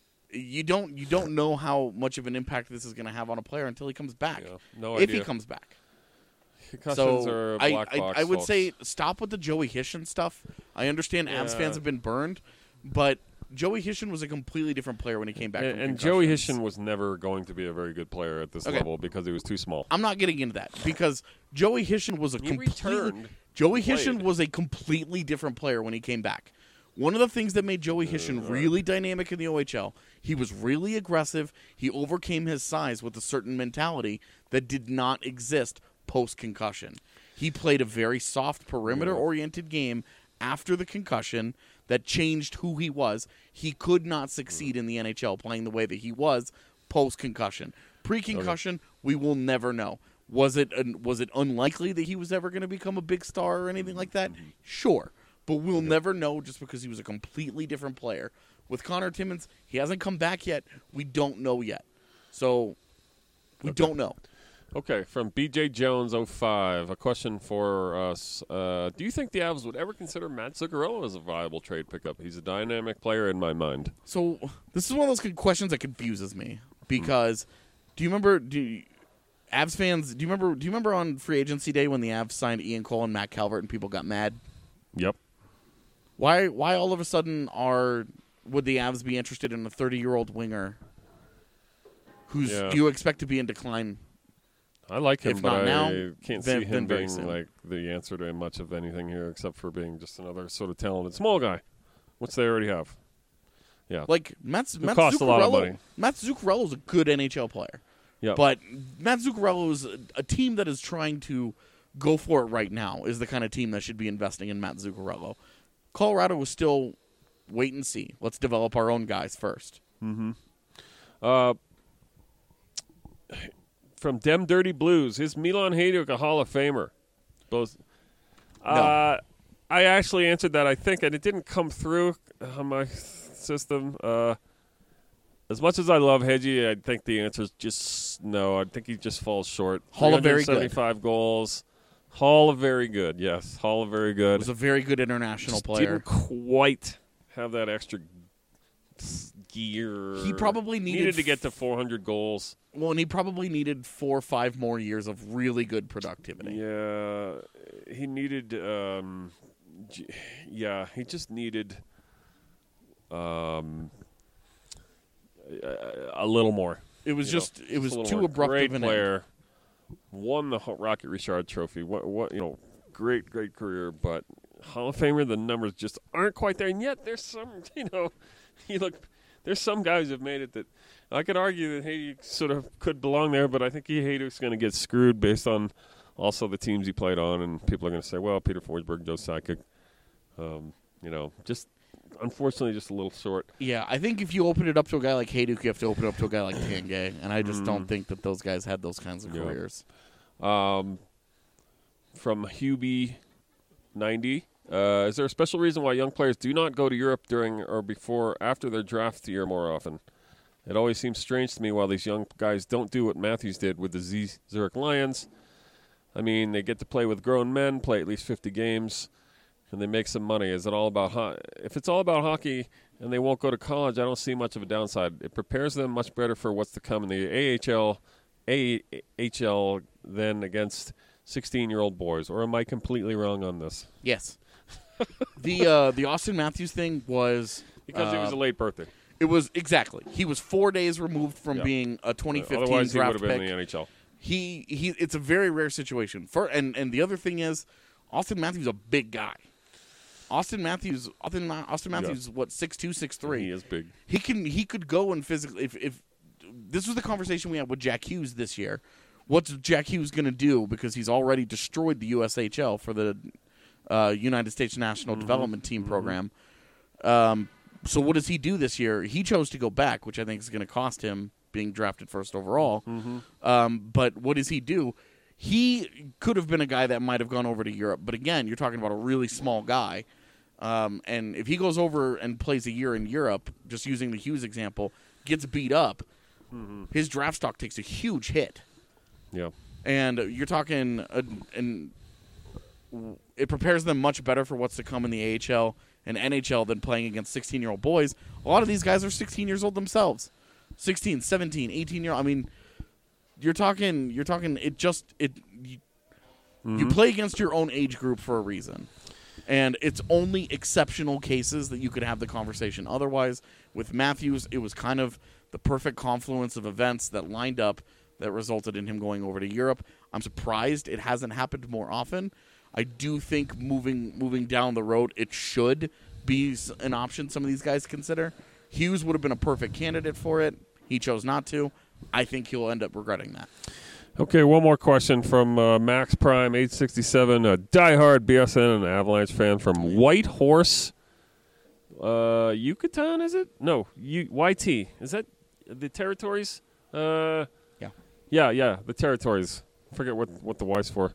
You don't you don't know how much of an impact this is going to have on a player until he comes back. Yeah, no if idea. he comes back. Concussions so are a I, black I, box, I would folks. say stop with the Joey Hishon stuff. I understand Avs Yeah. fans have been burned, but Joey Hishon was a completely different player when he came back. And, from and Joey concussions. Hishon was never going to be a very good player at this Okay. level because he was too small. I'm not getting into that because Joey Hishon was a He completely returned, Joey played. Hishon was a completely different player when he came back. One of the things that made Joey Hishon really dynamic in the O H L, he was really aggressive. He overcame his size with a certain mentality that did not exist post-concussion. He played a very soft perimeter-oriented game after the concussion that changed who he was. He could not succeed in the N H L playing the way that he was post-concussion. Pre-concussion, we will never know. Was it was it unlikely that he was ever going to become a big star or anything like that? Sure. But we'll never know just because he was a completely different player. With Connor Timmins, he hasn't come back yet. We don't know yet. So, we Okay. don't know. Okay, from B J Jones oh five, a question for us. Uh, do you think the Avs would ever consider Matt Zuccarello as a viable trade pickup? He's a dynamic player in my mind. So, this is one of those con- questions that confuses me. Because, do you remember... Do you, Avs fans, do you remember Do you remember on free agency day when the Avs signed Ian Cole and Matt Calvert and people got mad? Yep. Why Why all of a sudden are would the Avs be interested in a thirty-year-old winger who's Yeah. you expect to be in decline? I like him, If but not I now, can't then- see then him very being soon. like the answer to much of anything here, except for being just another sort of talented small guy, which they already have. Yeah, Like Matt, Who Matt costs a lot of Zuccarello- money. Matt Zuccarello is a good N H L player, yeah. but Matt Zuccarello is a, a team that is trying to go for it right now. Is the kind of team that should be investing in Matt Zuccarello. Colorado was still wait and see. Let's develop our own guys first. Mm-hmm. Uh, from Dem Dirty Blues, is Milan Hajduk a Hall of Famer? Both. Uh, I actually answered that, I think, and it didn't come through on my system. Uh, as much as I love Hedgie, I think the answer is just no. I think he just falls short. Hall of very good. seventy-five goals. Hall of very good, yes. Hall of very good. Was a very good international Just player. Didn't quite have that extra gear. He probably needed to get to four hundred goals. Well, and he probably needed four or five more years of really good productivity. Yeah, he needed. Um, j- yeah, he just needed um, a, a little more. It was you just- know, it was a little too more. abrupt Great of an end. player. Won the Ho- Rocket Richard Trophy. What? What? You know, great, great career, but Hall of Famer, the numbers just aren't quite there. And yet there's some, you know, you look, there's some guys who've made it that I could argue that Hayduk sort of could belong there, but I think Hayduk's going to get screwed based on also the teams he played on, and people are going to say, well, Peter Forsberg, Joe Sakic, um, you know, just unfortunately just a little short. Yeah, I think if you open it up to a guy like Hayduk, you have to open it up to a guy like Tanguay, and I just Mm. don't think that those guys had those kinds of Yeah. careers. Um, from Hubie ninety, uh, is there a special reason why young players do not go to Europe during or before after their draft year more often? It always seems strange to me why these young guys don't do what Matthews did with the Z- Zurich Lions. I mean, they get to play with grown men, play at least fifty games, and they make some money. Is it all about ho- if it's all about hockey and they won't go to college? I don't see much of a downside. It prepares them much better for what's to come in the A H L, A H L than against sixteen-year-old boys. Or am I completely wrong on this? Yes. the uh, the Austin Matthews thing was Because uh, it was a late birthday. It was exactly. He was four days removed from Yeah. being a twenty fifteen Otherwise, he draft would have been pick. in the N H L. He he. It's a very rare situation. For and and the other thing is, Austin Matthews is a big guy. Austin Matthews, Austin, Austin Matthews, Yeah. what six two, six three. He is big. He can he could go and physically if if this was the conversation we had with Jack Hughes this year. What's Jack Hughes going to do because he's already destroyed the U S H L for the uh, United States National Mm-hmm. Development Team program. Um, so what does he do this year? He chose to go back, which I think is going to cost him being drafted first overall. Mm-hmm. Um, but what does he do? He could have been a guy that might have gone over to Europe. But again, you're talking about a really small guy. Um, and if he goes over and plays a year in Europe, just using the Hughes example, gets beat up, Mm-hmm. his draft stock takes a huge hit. Yeah. And you're talking, uh, and it prepares them much better for what's to come in the A H L and N H L than playing against sixteen-year-old boys. A lot of these guys are sixteen years old themselves. sixteen, seventeen, eighteen-year-old. I mean, you're talking, you're talking, it just, it. You, Mm-hmm. you play against your own age group for a reason. And it's only exceptional cases that you could have the conversation. Otherwise, with Matthews, it was kind of the perfect confluence of events that lined up that resulted in him going over to Europe. I'm surprised it hasn't happened more often. I do think moving moving down the road, it should be s- an option some of these guys consider. Hughes would have been a perfect candidate for it. He chose not to. I think he'll end up regretting that. Okay, one more question from uh, Max Prime, eight sixty-seven, a diehard B S N and Avalanche fan from White Horse, uh, Yucatan, is it? No, U- Y T. Is that the territories? Uh, yeah. Yeah, yeah, the territories. I forget what, what the Y's for.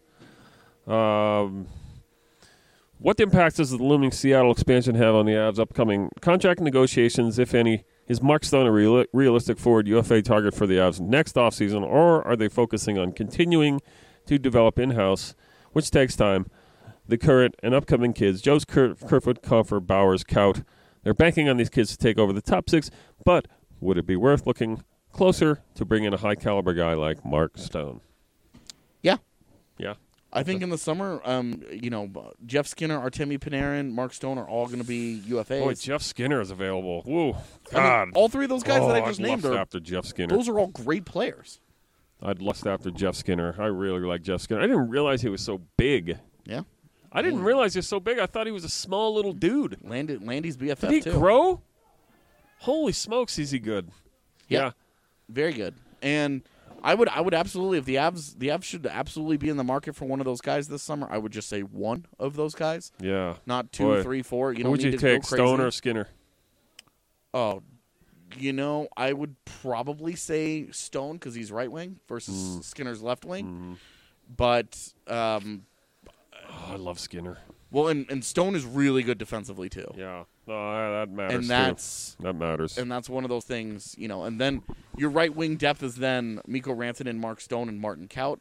Um, what impact does the looming Seattle expansion have on the Avs' upcoming contract negotiations, if any? Is Mark Stone a real- realistic forward U F A target for the Avs next offseason, or are they focusing on continuing to develop in-house, which takes time, the current and upcoming kids, Joe's, Ker- Kerfoot, Coffer, Bowers, Kaut? They're banking on these kids to take over the top six, but would it be worth looking closer to bring in a high-caliber guy like Mark Stone? Yeah. Yeah. I think in the summer, um, you know, Jeff Skinner, Artemi Panarin, Mark Stone are all going to be U F As. Boy, Jeff Skinner is available. Woo. I mean, God. all three of those guys oh, that I just I'd named lust are after Jeff Skinner. Those are all great players. I'd lust after Jeff Skinner. I really like Jeff Skinner. I didn't realize he was so big. Yeah. I didn't realize he was so big. I thought he was a small little dude. Landy, Landy's B F F Did he too. grow? Holy smokes, is he good? Yeah. Yeah. Very good. And I would I would absolutely, if the Avs the Avs should absolutely be in the market for one of those guys this summer, I would just say one of those guys. Yeah. Not two, Boy. three, four. You Who don't would need you to take, go crazy. Stone or Skinner? Oh, you know, I would probably say Stone because he's right wing versus Mm. Skinner's left wing. Mm. But um, Oh, I love Skinner. well, and, and Stone is really good defensively too. Yeah. Oh, that matters. And too. that's that matters. and that's one of those things, you know. And then your right wing depth is then Mikko Rantanen, Mark Stone, and Martin Kaut.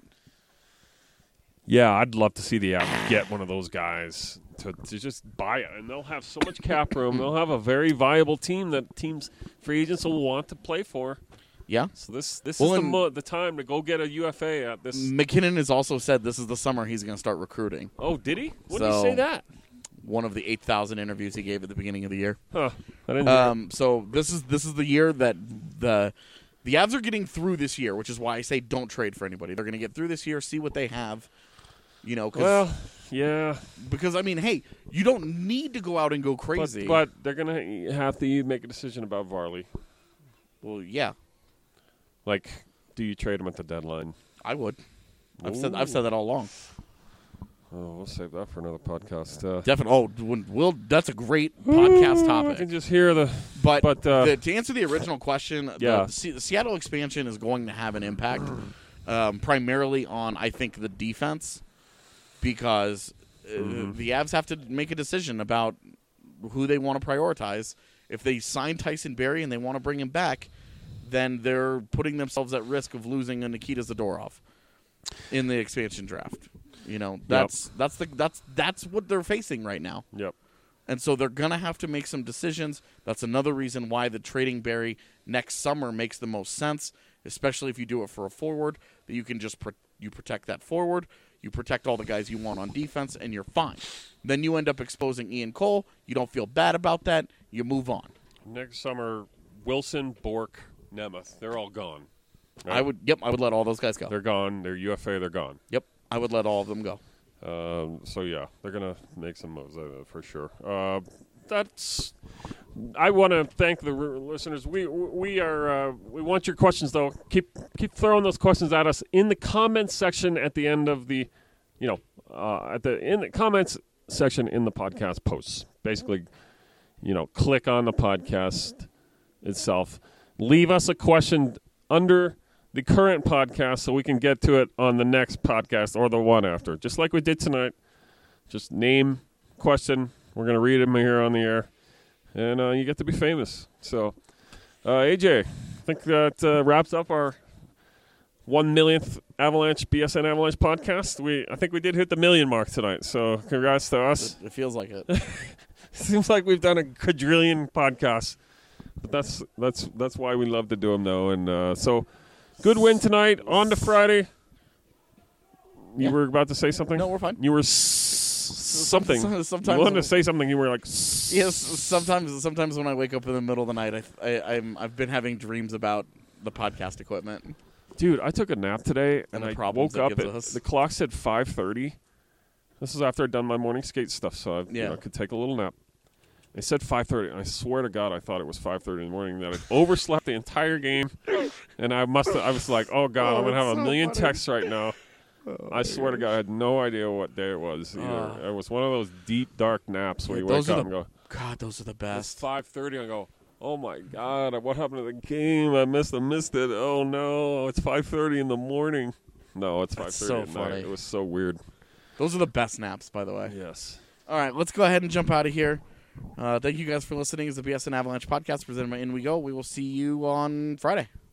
Yeah, I'd love to see the Avs get one of those guys to, to just buy it, and they'll have so much cap room. They'll have a very viable team that teams, free agents will want to play for. Yeah. So this this Well, is the and- mo- the time to go get a U F A at this. McKinnon has also said this is the summer he's going to start recruiting. Oh, did he? When did So, he say that? One of the eight thousand interviews he gave at the beginning of the year. Huh. I didn't hear Um, so this is this is the year that the the Avs are getting through this year, which is why I say don't trade for anybody. They're going to get through this year, see what they have. You know, 'cause, Well, yeah. because I mean, hey, you don't need to go out and go crazy. But, but they're gonna have to make a decision about Varley. Well, yeah. Like, do you trade him at the deadline? I would. I've said I've said that all along. Oh, we'll save that for another podcast. Uh, Definitely. Oh, when we'll, that's a great podcast I topic. can just hear the. But, but uh, the, to answer the original question, yeah. the, Se- the Seattle expansion is going to have an impact, um, primarily on I think the defense, because uh, Mm-hmm. the Avs have to make a decision about who they want to prioritize. If they sign Tyson Barrie and they want to bring him back, then they're putting themselves at risk of losing a Nikita Zadorov in the expansion draft. You know, that's yep. that's the that's that's what they're facing right now. Yep. And so they're gonna have to make some decisions. That's another reason why the trading Barrie next summer makes the most sense, especially if you do it for a forward. That you can just pro- you protect that forward, you protect all the guys you want on defense, and you're fine. Then you end up exposing Ian Cole. You don't feel bad about that. You move on. Next summer, Wilson, Bork, Nemeth, they're all gone. Right? I would. Yep, I would let all those guys go. They're gone. They're U F A. They're gone. Yep. I would let all of them go. Um, so, yeah, they're going to make some moves uh, for sure. Uh, that's. I want to thank the r- listeners. We we are uh, we want your questions though. Keep keep throwing those questions at us in the comments section at the end of the, you know, uh, at the in the comments section in the podcast posts. Basically, you know, click on the podcast itself. Leave us a question under the current podcast so we can get to it on the next podcast or the one after. Just like we did tonight. Just name, question. We're going to read them here on the air. And uh, you get to be famous. So, uh, A J, I think that uh, wraps up our one millionth Avalanche, B S N Avalanche podcast. We I think we did hit the million mark tonight. So congrats to us. It, it feels like it. Seems like we've done a quadrillion podcasts. But that's that's that's why we love to do them, though. And uh, so... Good win tonight. On to Friday. You yeah. were about to say something? No, we're fine. You were s- something. Sometimes you wanted to say something. You were like. S- yes. Sometimes, sometimes when I wake up in the middle of the night, I, I, I'm, I've been having dreams about the podcast equipment. Dude, I took a nap today, and, and I woke up. At, the clock said five thirty. This is after I'd done my morning skate stuff, so I yeah. you know, could take a little nap. They said five thirty, and I swear to God, I thought it was five thirty in the morning. That I overslept the entire game, and I must. I was like, "Oh God, oh, I'm gonna have a so million funny. texts right now." Oh, I swear to God, I had no idea what day it was either. Uh, it was one of those deep, dark naps where yeah, you wake up the, and go, "God, those are the best." It's five thirty. I go, "Oh my God, what happened to the game? I missed. I missed it. Oh no, it's five thirty in the morning." No, it's five thirty so at funny. night. It was so weird. Those are the best naps, by the way. Yes. All right, let's go ahead and jump out of here. Uh, thank you guys for listening. It's the B S N Avalanche podcast presented by In We Go. We will see you on Friday.